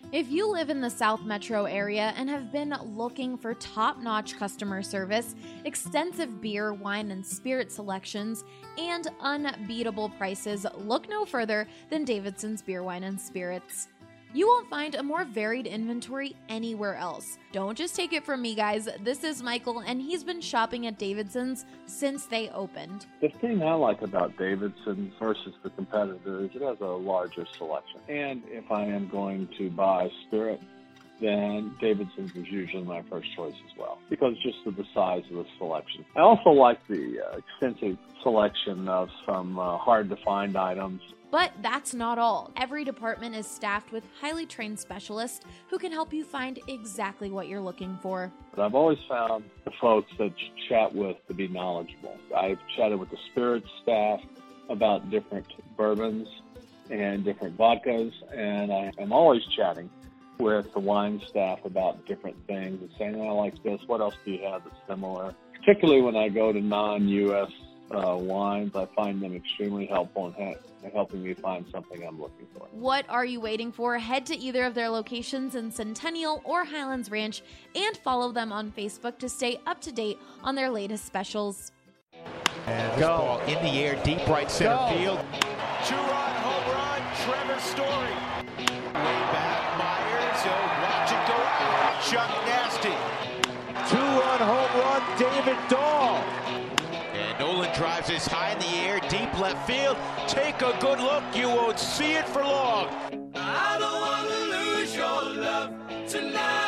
If you live in the South Metro area and have been looking for top-notch customer service, extensive beer, wine, and spirit selections, and unbeatable prices, look no further than Davidson's Beer, Wine, and Spirits. You won't find a more varied inventory anywhere else. Don't just take it from me, guys. This is Michael, and he's been shopping at Davidson's since they opened. The thing I like about Davidson's versus the competitor is it has a larger selection. And if I am going to buy spirit, then Davidson's is usually my first choice as well, because just of the size of the selection. I also like the extensive selection of some hard-to-find items. But that's not all. Every department is staffed with highly trained specialists who can help you find exactly what you're looking for. But I've always found the folks that you chat with to be knowledgeable. I've chatted with the spirits staff about different bourbons and different vodkas, and I am always chatting with the wine staff about different things and saying, I like this, what else do you have that's similar? Particularly when I go to non-U.S. wines, I find them extremely helpful in helping me find something I'm looking for. What are you waiting for? Head to either of their locations in Centennial or Highlands Ranch and follow them on Facebook to stay up to date on their latest specials. And this ball in the air, deep right center field. Two-run home run, Trevor Story. Way back, Myers, watch it go out. Chuck Nasty. Two-run home run, David Dahl. And Nolan drives this high in the air, deep left field. Take a good look, you won't see it for long. I don't want to lose your love tonight.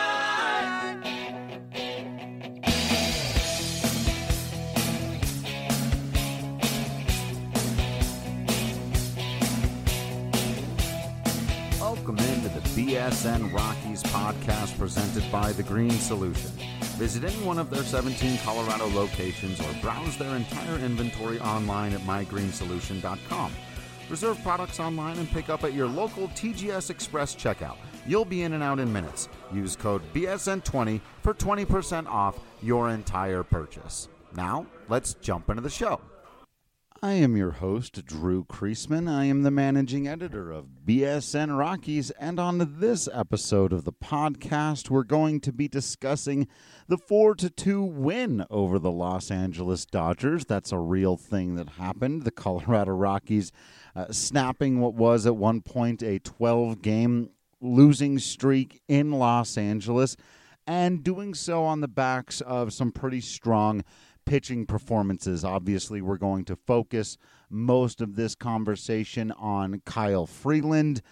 Welcome into the BSN Rockies podcast presented by The Green Solution. Visit any one of their 17 Colorado locations or browse their entire inventory online at mygreensolution.com. Reserve products online and pick up at your local TGS Express checkout. You'll be in and out in minutes. Use code BSN20 for 20% off your entire purchase. Now, let's jump into the show. I am your host, Drew Kreisman. I am the managing editor of BSN Rockies, and on this episode of the podcast, we're going to be discussing the 4-2 win over the Los Angeles Dodgers. That's a real thing that happened. The Colorado Rockies snapping what was at one point a 12-game losing streak in Los Angeles, and doing so on the backs of some pretty strong pitching performances. Obviously, we're going to focus most of this conversation on Kyle Freeland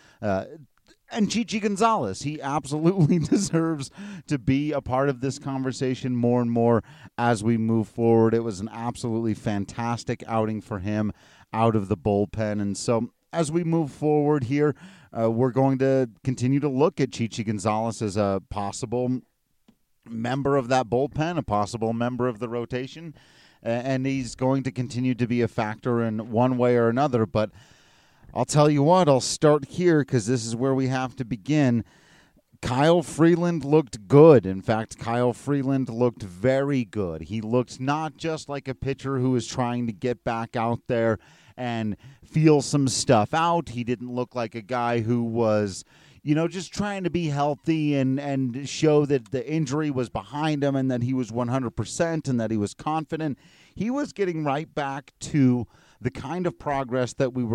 and Chichi Gonzalez. He absolutely deserves to be a part of this conversation more and more as we move forward. It was an absolutely fantastic outing for him out of the bullpen. And so as we move forward here, we're going to continue to look at Chichi Gonzalez as a possible member of that bullpen, a possible member of the rotation, and he's going to continue to be a factor in one way or another. But I'll tell you what, I'll start here because this is where we have to begin. Kyle Freeland looked good. In fact, Kyle Freeland looked very good. He looked not just like a pitcher who is trying to get back out there and feel some stuff out. He didn't look like a guy who was, just trying to be healthy and show that the injury was behind him and that he was 100% and that he was confident. He was getting right back to the kind of progress that we were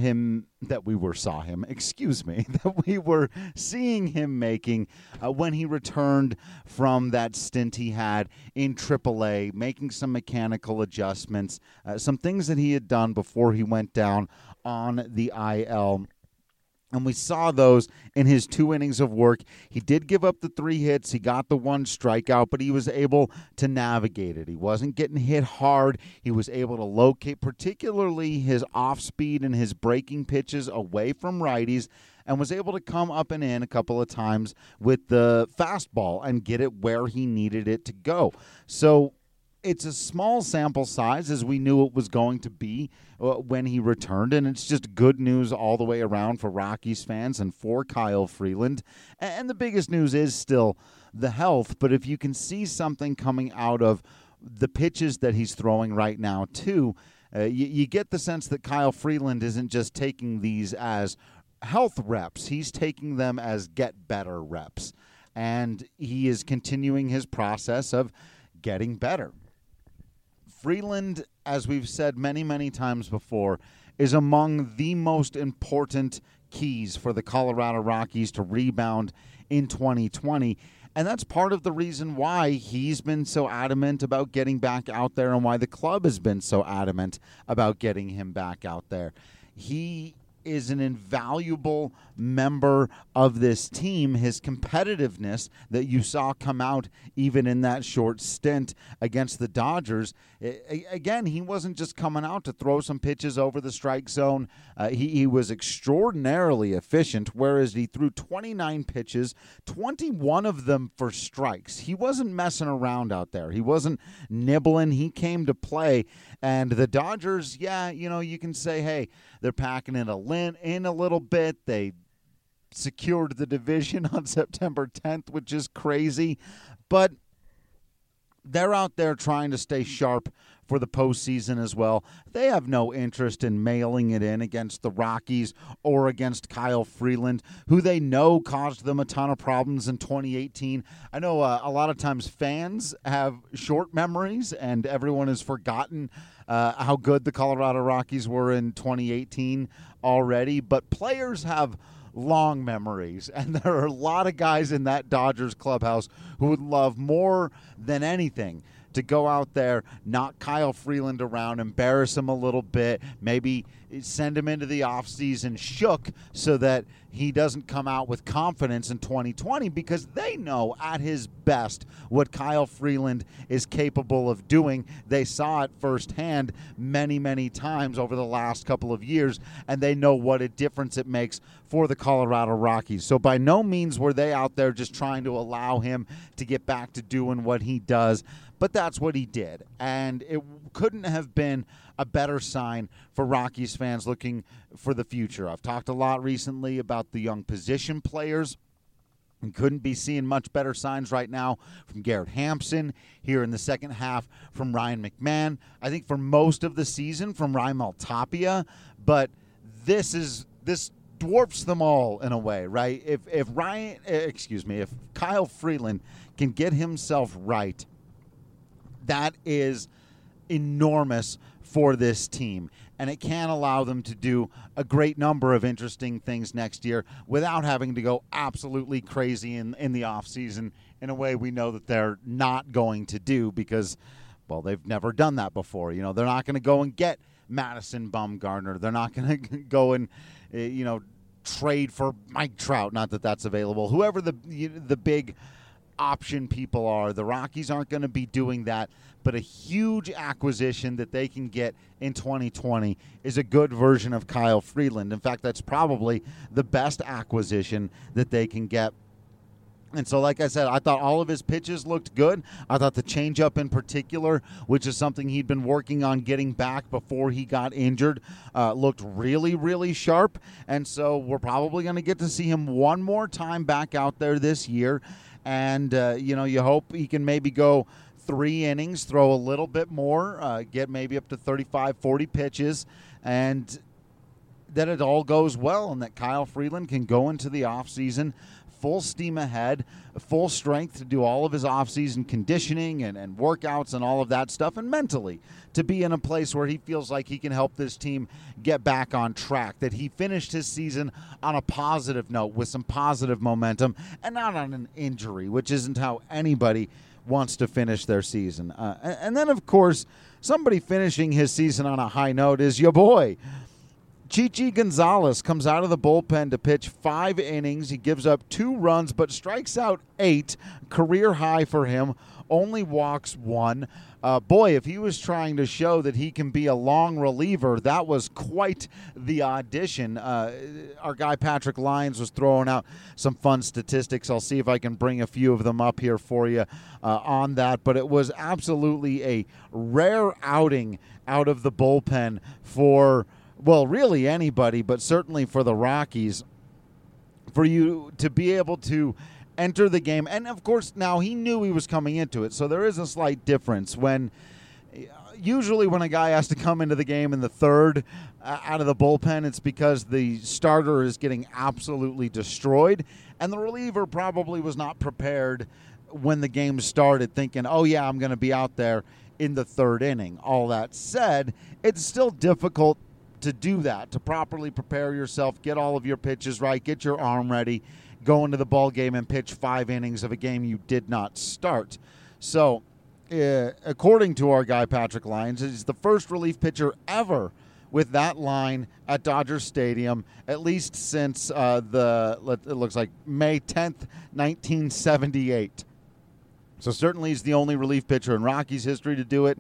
seeing him making when he returned from that stint he had in AAA, making some mechanical adjustments, some things that he had done before he went down on the IL. And we saw those in his 2 innings of work. He did give up the 3 hits. He got the 1 strikeout, but he was able to navigate it. He wasn't getting hit hard. He was able to locate particularly his off-speed and his breaking pitches away from righties, and was able to come up and in a couple of times with the fastball and get it where he needed it to go. So it's a small sample size, as we knew it was going to be when he returned, and it's just good news all the way around for Rockies fans and for Kyle Freeland. And the biggest news is still the health, but if you can see something coming out of the pitches that he's throwing right now, too, you get the sense that Kyle Freeland isn't just taking these as health reps. He's taking them as get better reps. And he is continuing his process of getting better. Freeland, as we've said many, many times before, is among the most important keys for the Colorado Rockies to rebound in 2020. And that's part of the reason why he's been so adamant about getting back out there and why the club has been so adamant about getting him back out there. He is an invaluable member of this team. His competitiveness that you saw come out even in that short stint against the Dodgers. Again, he wasn't just coming out to throw some pitches over the strike zone. He was extraordinarily efficient, whereas he threw 29 pitches, 21 of them for strikes. He wasn't messing around out there. He wasn't nibbling. He came to play. And the Dodgers, you can say, hey, they're packing it in a little bit. They secured the division on September 10th, which is crazy. But they're out there trying to stay sharp for the postseason as well. They have no interest in mailing it in against the Rockies or against Kyle Freeland, who they know caused them a ton of problems in 2018. I know a lot of times fans have short memories, and everyone has forgotten how good the Colorado Rockies were in 2018 already, but players have long memories, and there are a lot of guys in that Dodgers clubhouse who would love more than anything to go out there, knock Kyle Freeland around, embarrass him a little bit, maybe send him into the offseason shook so that he doesn't come out with confidence in 2020, because they know at his best what Kyle Freeland is capable of doing. They saw it firsthand many, many times over the last couple of years, and they know what a difference it makes for the Colorado Rockies. So by no means were they out there just trying to allow him to get back to doing what he does, but that's what he did, and it couldn't have been a better sign for Rockies fans looking for the future. I've talked a lot recently about the young position players. We couldn't be seeing much better signs right now from Garrett Hampson, here in the second half from Ryan McMahon. I think for most of the season from Raimel Tapia, but this dwarfs them all in a way, right? If Kyle Freeland can get himself right, that is enormous for this team, and it can allow them to do a great number of interesting things next year without having to go absolutely crazy in the offseason in a way we know that they're not going to do, because, well, they've never done that before. They're not going to go and get Madison Bumgarner. They're not going to go and, trade for Mike Trout, not that that's available. Whoever the big option people are, the Rockies aren't going to be doing that, but a huge acquisition that they can get in 2020 is a good version of Kyle Freeland. In fact, that's probably the best acquisition that they can get. And so, like I said, I thought all of his pitches looked good. I thought the changeup in particular, which is something he'd been working on getting back before he got injured, looked really, really sharp. And so we're probably going to get to see him one more time back out there this year. And, you hope he can maybe go 3 innings, throw a little bit more, get maybe up to 35, 40 pitches, and that it all goes well and that Kyle Freeland can go into the offseason full steam ahead, full strength to do all of his offseason conditioning and workouts and all of that stuff, and mentally to be in a place where he feels like he can help this team get back on track, that he finished his season on a positive note with some positive momentum and not on an injury, which isn't how anybody wants to finish their season. And then, of course, somebody finishing his season on a high note is your boy. Chichi Gonzalez comes out of the bullpen to pitch 5 innings. He gives up 2 runs but strikes out 8, career high for him, only walks 1. Boy, if he was trying to show that he can be a long reliever, that was quite the audition. Our guy Patrick Lyons was throwing out some fun statistics. I'll see if I can bring a few of them up here for you on that. But it was absolutely a rare outing out of the bullpen for, well, really anybody, but certainly for the Rockies, for you to be able to enter the game. And, of course, now he knew he was coming into it, so there is a slight difference when usually when a guy has to come into the game in the third out of the bullpen, it's because the starter is getting absolutely destroyed, and the reliever probably was not prepared when the game started thinking, oh, yeah, I'm going to be out there in the third inning. All that said, it's still difficult to do that, to properly prepare yourself, get all of your pitches right, get your arm ready, go into the ball game and pitch 5 innings of a game you did not start. So, according to our guy Patrick Lyons, he's the first relief pitcher ever with that line at Dodger Stadium, at least since it looks like May 10th, 1978. So certainly he's the only relief pitcher in Rockies history to do it.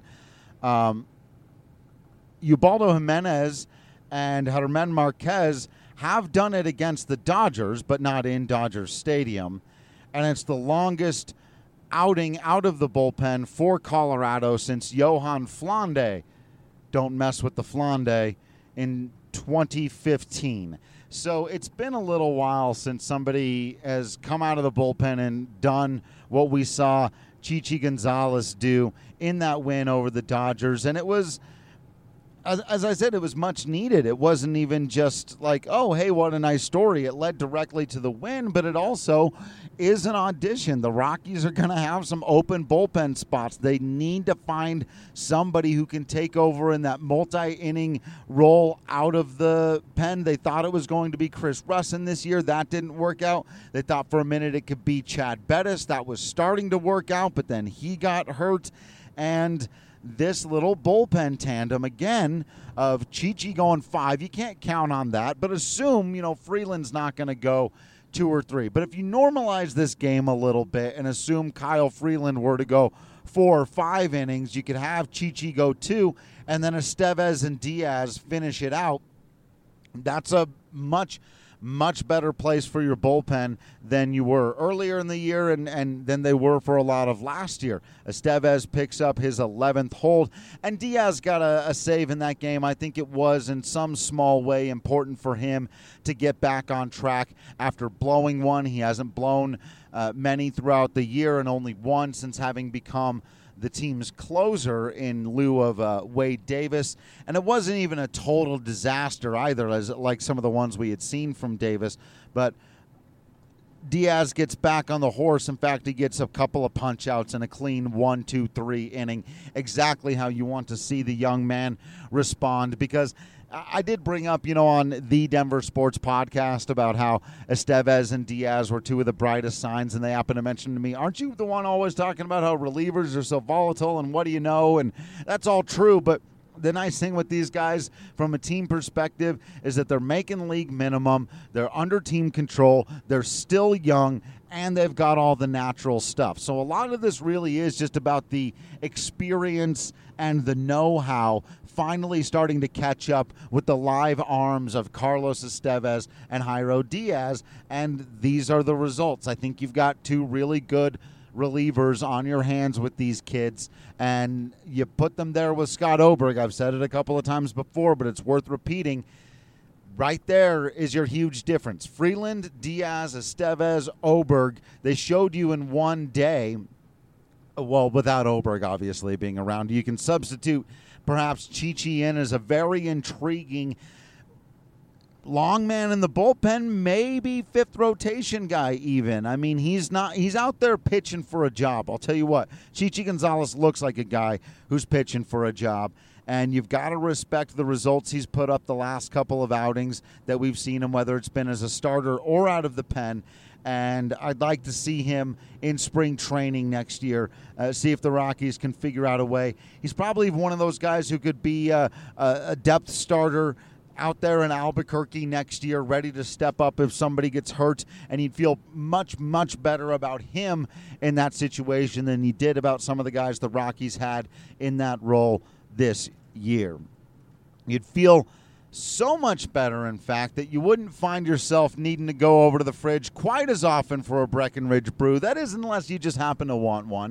Ubaldo Jimenez and Germán Marquez have done it against the Dodgers, but not in Dodger Stadium. And it's the longest outing out of the bullpen for Colorado since Johan Flande, don't mess with the Flande, in 2015. So it's been a little while since somebody has come out of the bullpen and done what we saw Chichi Gonzalez do in that win over the Dodgers. And it was, as I said, it was much needed. It wasn't even just like, oh, hey, what a nice story. It led directly to the win, but it also is an audition. The Rockies are going to have some open bullpen spots. They need to find somebody who can take over in that multi-inning role out of the pen. They thought it was going to be Chris Russin this year. That didn't work out. They thought for a minute it could be Chad Bettis. That was starting to work out, but then he got hurt. And this little bullpen tandem, again, of Chichi going 5, you can't count on that, but assume, Freeland's not going to go 2 or 3. But if you normalize this game a little bit and assume Kyle Freeland were to go 4 or 5 innings, you could have Chichi go 2, and then Estevez and Diaz finish it out. That's a much better place for your bullpen than you were earlier in the year and than they were for a lot of last year. Estevez picks up his 11th hold, and Diaz got a save in that game. I think it was in some small way important for him to get back on track after blowing one. He hasn't blown many throughout the year and only one since having become the team's closer in lieu of Wade Davis. And it wasn't even a total disaster either, like some of the ones we had seen from Davis. But Diaz gets back on the horse. In fact, he gets a couple of punch-outs and a clean 1-2-3 inning, exactly how you want to see the young man respond. Because I did bring up, on the Denver Sports Podcast about how Estevez and Diaz were 2 of the brightest signs, and they happened to mention to me, aren't you the one always talking about how relievers are so volatile and what do you know? And that's all true, but the nice thing with these guys from a team perspective is that they're making league minimum, they're under team control, they're still young, and they've got all the natural stuff. So a lot of this really is just about the experience and the know-how finally starting to catch up with the live arms of Carlos Estevez and Jairo Diaz, and these are the results. I think you've got 2 really good relievers on your hands with these kids, and you put them there with Scott Oberg. I've said it a couple of times before, but it's worth repeating. Right there is your huge difference. Freeland, Diaz, Estevez, Oberg, they showed you in one day, well, without Oberg obviously being around. You can substitute perhaps Chichi in as a very intriguing long man in the bullpen, maybe 5th rotation guy even. I mean, he's out there pitching for a job. I'll tell you what, Chichi Gonzalez looks like a guy who's pitching for a job, and you've got to respect the results he's put up the last couple of outings that we've seen him, whether it's been as a starter or out of the pen. And I'd like to see him in spring training next year, see if the Rockies can figure out a way. He's probably one of those guys who could be a depth starter out there in Albuquerque next year, ready to step up if somebody gets hurt, and you'd feel much, much better about him in that situation than you did about some of the guys the Rockies had in that role this year. You'd feel so much better, in fact, that you wouldn't find yourself needing to go over to the fridge quite as often for a Breckenridge brew. That is, unless you just happen to want one.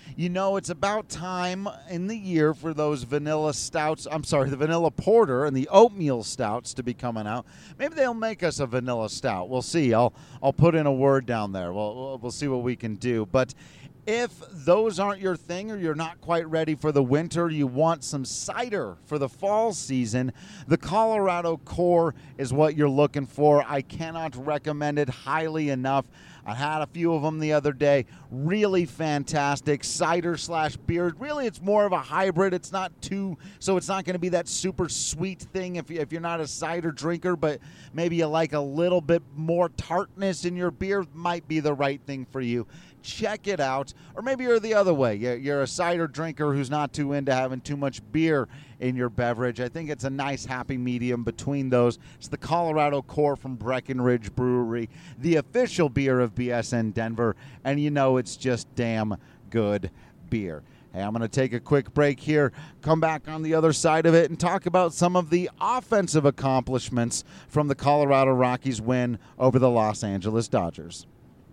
it's about time in the year for those vanilla stouts. I'm sorry, the vanilla porter and the oatmeal stouts to be coming out. Maybe they'll make us a vanilla stout. We'll see. I'll put in a word down there. We'll see what we can do. But if those aren't your thing, or you're not quite ready for the winter, you want some cider for the fall season, the Colorado Core is what you're looking for. I cannot recommend it highly enough. I had a few of them the other day. Really fantastic cider/beer. Really, it's more of a hybrid. It's not so it's not going to be that super sweet thing if you're not a cider drinker, but maybe you like a little bit more tartness in your beer, might be the right thing for you. Check it out. Or maybe you're the other way. You're a cider drinker who's not too into having too much beer in your beverage. I think it's a nice happy medium between those. It's the Colorado Core from Breckenridge Brewery, the official beer of BSN Denver, and it's just damn good beer. Hey, I'm going to take a quick break here, come back on the other side of it, and talk about some of the offensive accomplishments from the Colorado Rockies win over the Los Angeles Dodgers.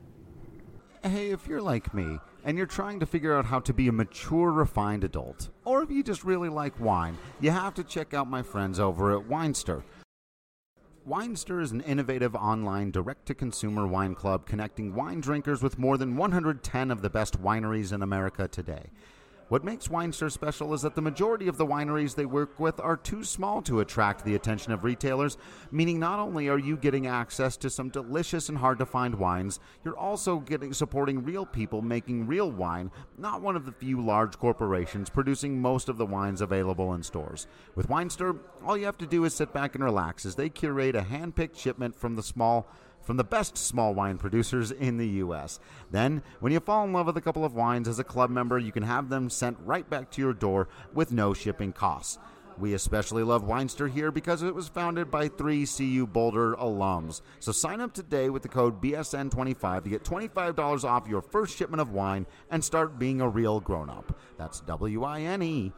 Hey, if you're like me, and you're trying to figure out how to be a mature, refined adult, or if you just really like wine, you have to check out my friends over at Winester. Winester is an innovative online direct-to-consumer wine club connecting wine drinkers with more than 110 of the best wineries in America today. What makes Winester special is that the majority of the wineries they work with are too small to attract the attention of retailers, meaning not only are you getting access to some delicious and hard-to-find wines, you're also supporting real people making real wine, not one of the few large corporations producing most of the wines available in stores. With Winester, all you have to do is sit back and relax as they curate a hand-picked shipment from the best small wine producers in the U.S. Then, when you fall in love with a couple of wines as a club member, you can have them sent right back to your door with no shipping costs. We especially love Winester here because it was founded by 3 CU Boulder alums. So sign up today with the code BSN25 to get $25 off your first shipment of wine and start being a real grown-up. That's WINESTYR.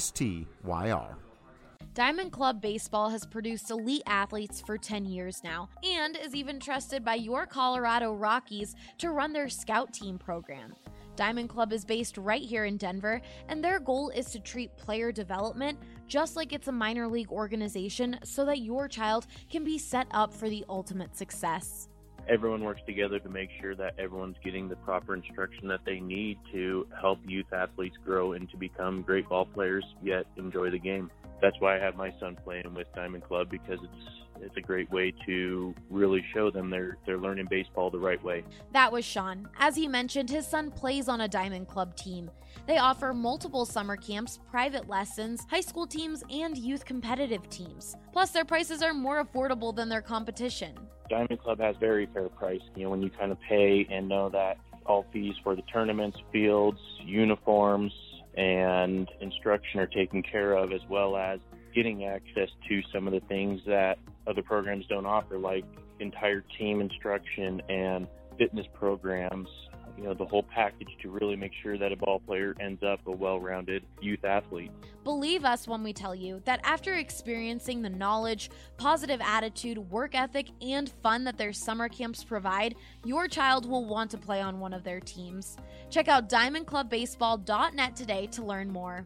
Diamond Club Baseball has produced elite athletes for 10 years now and is even trusted by your Colorado Rockies to run their scout team program. Diamond Club is based right here in Denver, and their goal is to treat player development just like it's a minor league organization so that your child can be set up for the ultimate success. Everyone works together to make sure that everyone's getting the proper instruction that they need to help youth athletes grow and to become great ball players, yet enjoy the game. That's why I have my son playing with Diamond Club, because it's a great way to really show them they're learning baseball the right way. That was Sean. As he mentioned, his son plays on a Diamond Club team. They offer multiple summer camps, private lessons, high school teams, and youth competitive teams. Plus, their prices are more affordable than their competition. Diamond Club has very fair price. When you kind of pay and know that all fees for the tournaments, fields, uniforms, and instruction are taken care of, as well as getting access to some of the things that other programs don't offer, like entire team instruction and fitness programs, the whole package to really make sure that a ball player ends up a well-rounded youth athlete. Believe us when we tell you that after experiencing the knowledge, positive attitude, work ethic, and fun that their summer camps provide, your child will want to play on one of their teams. Check out diamondclubbaseball.net today to learn more.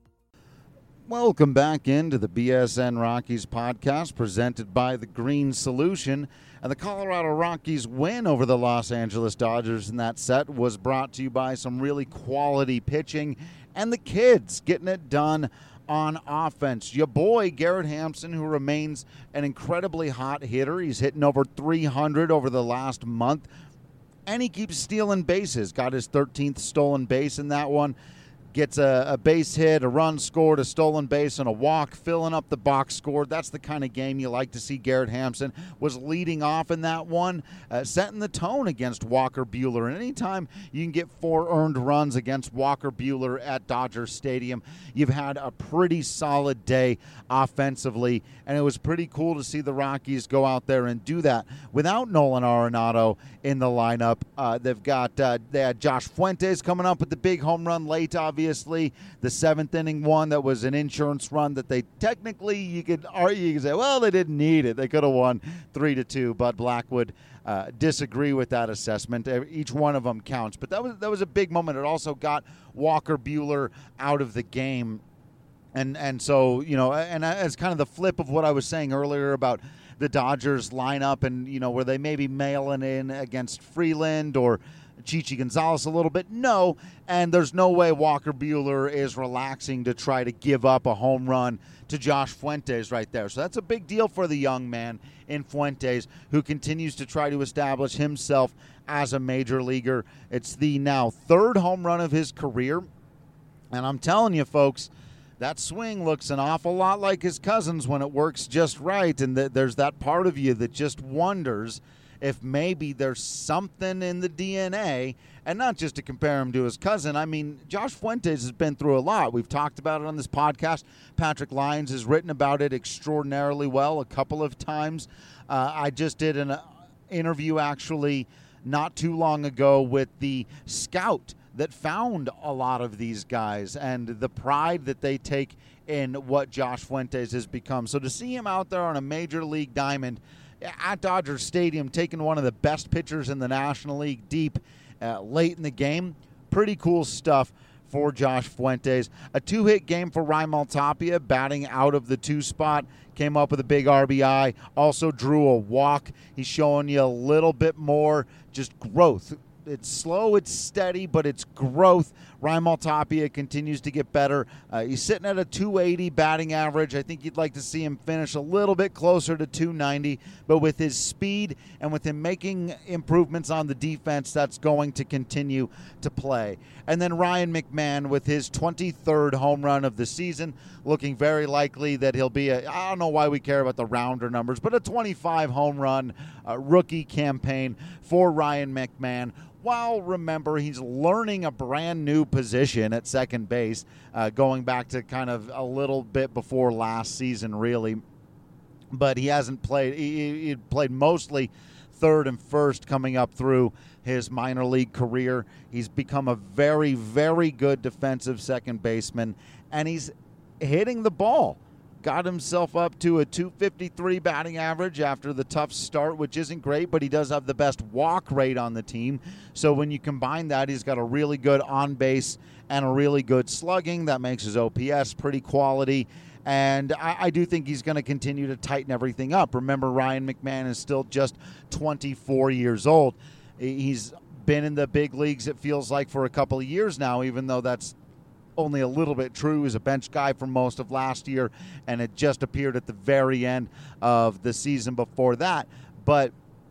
Welcome back into the BSN Rockies podcast presented by The Green Solution. And the Colorado Rockies win over the Los Angeles Dodgers in that set was brought to you by some really quality pitching and the kids getting it done on offense. Your boy, Garrett Hampson, who remains an incredibly hot hitter. He's hitting over 300 over the last month, and he keeps stealing bases. Got his 13th stolen base in that one. Gets a base hit, a run scored, a stolen base, and a walk, filling up the box score. That's the kind of game you like to see. Garrett Hampson was leading off in that one, setting the tone against Walker Buehler. And anytime you can get 4 earned runs against Walker Buehler at Dodger Stadium, you've had a pretty solid day offensively. And it was pretty cool to see the Rockies go out there and do that without Nolan Arenado in the lineup. They had Josh Fuentes coming up with the big home run late, obviously. The 7th inning one that was an insurance run that they technically, you could argue, you could say, well, they didn't need it. They could have won 3-2. Bud Blackwood disagree with that assessment. Each one of them counts. But that was a big moment. It also got Walker Buehler out of the game. And so, and as kind of the flip of what I was saying earlier about the Dodgers lineup and, where they maybe mailing in against Freeland or Chichi Gonzalez a little bit. No, and there's no way Walker Buehler is relaxing to try to give up a home run to Josh Fuentes right there. So that's a big deal for the young man in Fuentes, who continues to try to establish himself as a major leaguer. It's the now third home run of his career. And I'm telling you, folks, that swing looks an awful lot like his cousin's when it works just right. And there's that part of you that just wonders if maybe there's something in the DNA, and not just to compare him to his cousin. I mean, Josh Fuentes has been through a lot. We've talked about it on this podcast. Patrick Lyons has written about it extraordinarily well a couple of times. I just did an interview actually not too long ago with the scout that found a lot of these guys and the pride that they take in what Josh Fuentes has become. So to see him out there on a major league diamond at Dodger Stadium, taking one of the best pitchers in the National League deep late in the game, pretty cool stuff for Josh Fuentes. A 2-hit game for Raimel Tapia, batting out of the 2 spot, came up with a big RBI, also drew a walk. He's showing you a little bit more just growth. It's slow, it's steady, but it's growth. Raimel Tapia continues to get better. He's sitting at a 280 batting average. I think you'd like to see him finish a little bit closer to 290, but with his speed and with him making improvements on the defense, that's going to continue to play. And then Ryan McMahon with his 23rd home run of the season, looking very likely that he'll be I don't know why we care about the rounder numbers, but a 25 home run rookie campaign for Ryan McMahon. While, remember, he's learning a brand new position at second base, going back to kind of a little bit before last season, really. But he hasn't played. He played mostly third and first coming up through his minor league career. He's become a very, very good defensive second baseman, and he's hitting the ball. Got himself up to a 253 batting average after the tough start, which isn't great, but he does have the best walk rate on the team. So when you combine that, he's got a really good on base and a really good slugging. That makes his OPS pretty quality. And I do think he's going to continue to tighten everything up. Remember, Ryan McMahon is still just 24 years old. He's been in the big leagues, it feels like, for a couple of years now, even though that's only a little bit true. He was a bench guy for most of last year, and it just appeared at the very end of the season before that. But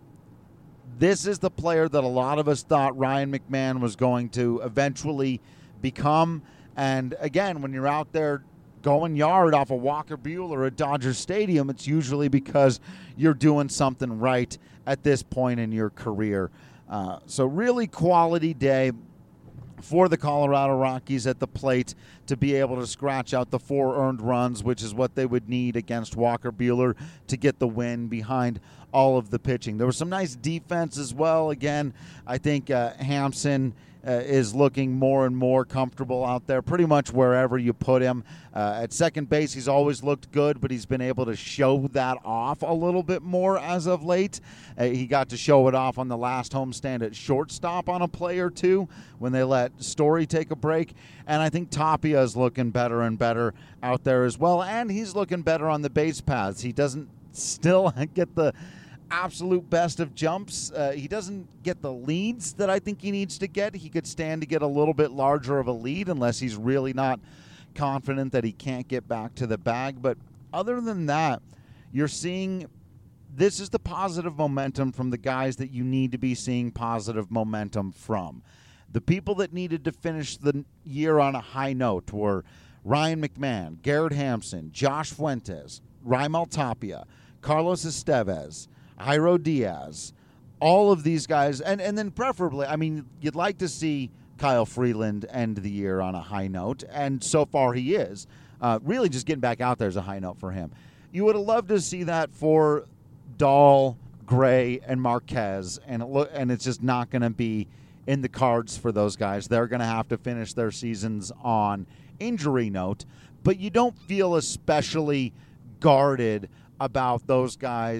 this is the player that a lot of us thought Ryan McMahon was going to eventually become. And again, when you're out there going yard off of Walker Buehler at Dodger Stadium, it's usually because you're doing something right at this point in your career. So really quality day for the Colorado Rockies at the plate to be able to scratch out the 4 earned runs, which is what they would need against Walker Buehler to get the win behind all of the pitching. There was some nice defense as well. Again, I think Hampson is looking more and more comfortable out there pretty much wherever you put him. At second base, he's always looked good, but he's been able to show that off a little bit more as of late. He got to show it off on the last homestand at shortstop on a play or two when they let Story take a break. And I think Tapia is looking better and better out there as well, and he's looking better on the base paths. He doesn't still get the absolute best of jumps. He doesn't get the leads that I think he needs to get. He could stand to get a little bit larger of a lead unless he's really not confident that he can't get back to the bag. But other than that, you're seeing this is the positive momentum from the guys that you need to be seeing positive momentum from. The people that needed to finish the year on a high note were Ryan McMahon, Garrett Hampson, Josh Fuentes, Raimel Tapia, Carlos Estevez, Jairo Diaz, all of these guys, and then preferably, I mean, you'd like to see Kyle Freeland end the year on a high note, and so far he is. Really just getting back out there is a high note for him. You would have loved to see that for Dahl, Gray, and Marquez, and it's just not going to be in the cards for those guys. They're going to have to finish their seasons on injury note, but you don't feel especially guarded about those guys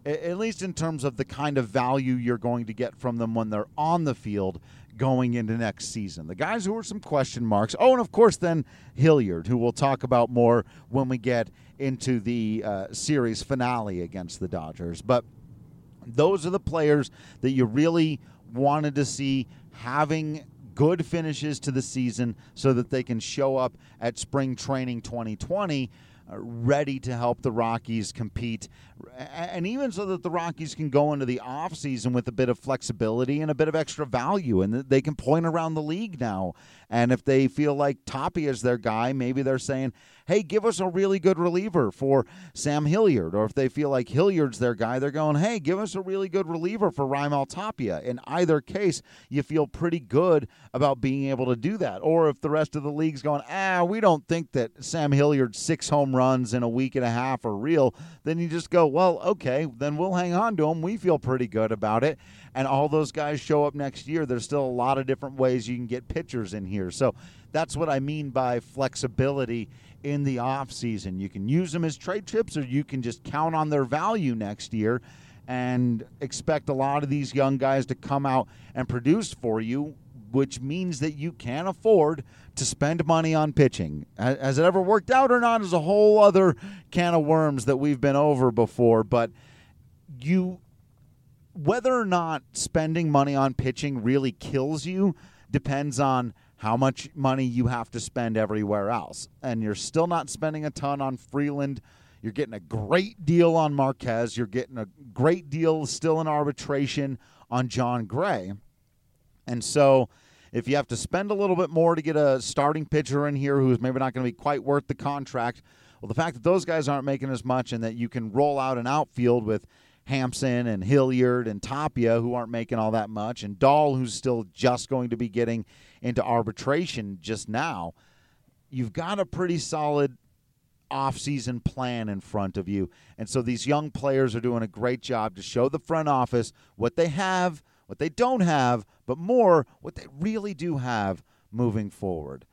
at least in terms of the kind of value you're going to get from them when they're on the field going into next season. The guys who are some question marks. Oh, and of course then Hilliard, who we'll talk about more when we get into the series finale against the Dodgers. But those are the players that you really wanted to see having good finishes to the season so that they can show up at spring training 2020 ready to help the Rockies compete, and even so that the Rockies can go into the offseason with a bit of flexibility and a bit of extra value, and they can point around the league now. And if they feel like Tapia is their guy, maybe they're saying, hey, give us a really good reliever for Sam Hilliard. Or if they feel like Hilliard's their guy, they're going, hey, give us a really good reliever for Raimel Tapia. In either case, you feel pretty good about being able to do that. Or if the rest of the league's going, we don't think that Sam Hilliard's 6 home runs in a week and a half are real, then you just go, well, okay, then we'll hang on to him. We feel pretty good about it. And all those guys show up next year. There's still a lot of different ways you can get pitchers in here. So that's what I mean by flexibility in the offseason. You can use them as trade chips, or you can just count on their value next year and expect a lot of these young guys to come out and produce for you, which means that you can afford to spend money on pitching. Has it ever worked out or not is a whole other can of worms that we've been over before, but whether or not spending money on pitching really kills you depends on how much money you have to spend everywhere else. And you're still not spending a ton on Freeland. You're getting a great deal on Marquez. You're getting a great deal still in arbitration on John Gray. And so if you have to spend a little bit more to get a starting pitcher in here who's maybe not going to be quite worth the contract, well, the fact that those guys aren't making as much and that you can roll out an outfield with Hampson and Hilliard and Tapia, who aren't making all that much, and Dahl, who's still just going to be getting into arbitration just now, you've got a pretty solid offseason plan in front of you. And so these young players are doing a great job to show the front office what they have, what they don't have, but more what they really do have moving forward.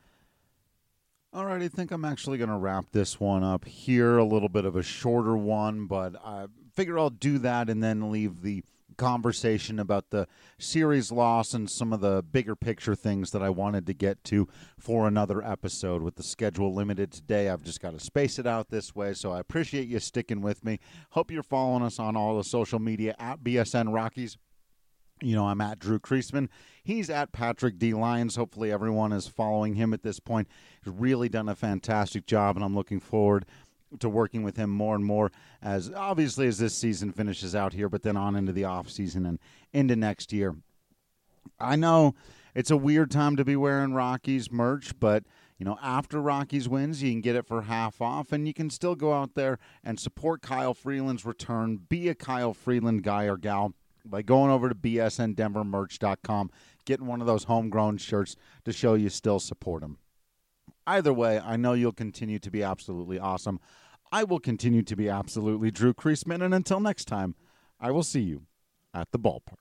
All right, I think I'm actually going to wrap this one up here, a little bit of a shorter one, but I figure I'll do that and then leave the conversation about the series loss and some of the bigger picture things that I wanted to get to for another episode. With the schedule limited today, I've just got to space it out this way, so I appreciate you sticking with me. Hope you're following us on all the social media at BSN Rockies. You know, I'm at Drew Creasman. He's at Patrick D. Lyons. Hopefully everyone is following him at this point. He's really done a fantastic job, and I'm looking forward to working with him more and more as this season finishes out here, but then on into the off season and into next year. I know it's a weird time to be wearing Rockies merch, but you know, after Rockies wins, you can get it for half off, and you can still go out there and support Kyle Freeland's return. Be a Kyle Freeland guy or gal by going over to bsndenvermerch.com, getting one of those homegrown shirts to show you still support him. Either way, I know you'll continue to be absolutely awesome. I will continue to be absolutely Drew Creasman, and until next time, I will see you at the ballpark.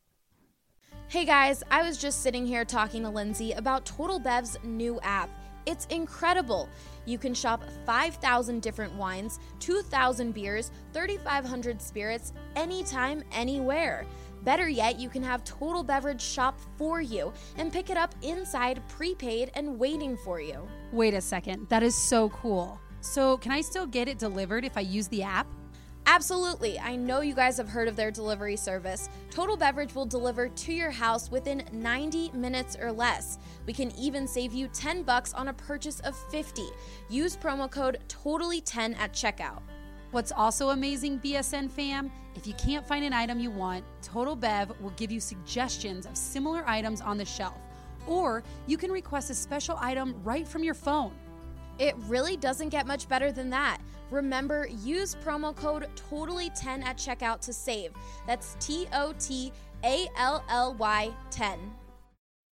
Hey guys, I was just sitting here talking to Lindsay about Total Bev's new app. It's incredible. You can shop 5,000 different wines, 2,000 beers, 3,500 spirits, anytime, anywhere. Better yet, you can have Total Beverage shop for you and pick it up inside, prepaid, and waiting for you. Wait a second, that is so cool. So can I still get it delivered if I use the app? Absolutely. I know you guys have heard of their delivery service. Total Beverage will deliver to your house within 90 minutes or less. We can even save you $10 on a purchase of $50. Use promo code TOTALLY10 at checkout. What's also amazing, BSN fam, if you can't find an item you want, Total Bev will give you suggestions of similar items on the shelf. Or you can request a special item right from your phone. It really doesn't get much better than that. Remember, use promo code TOTALLY10 at checkout to save. That's TOTALLY10.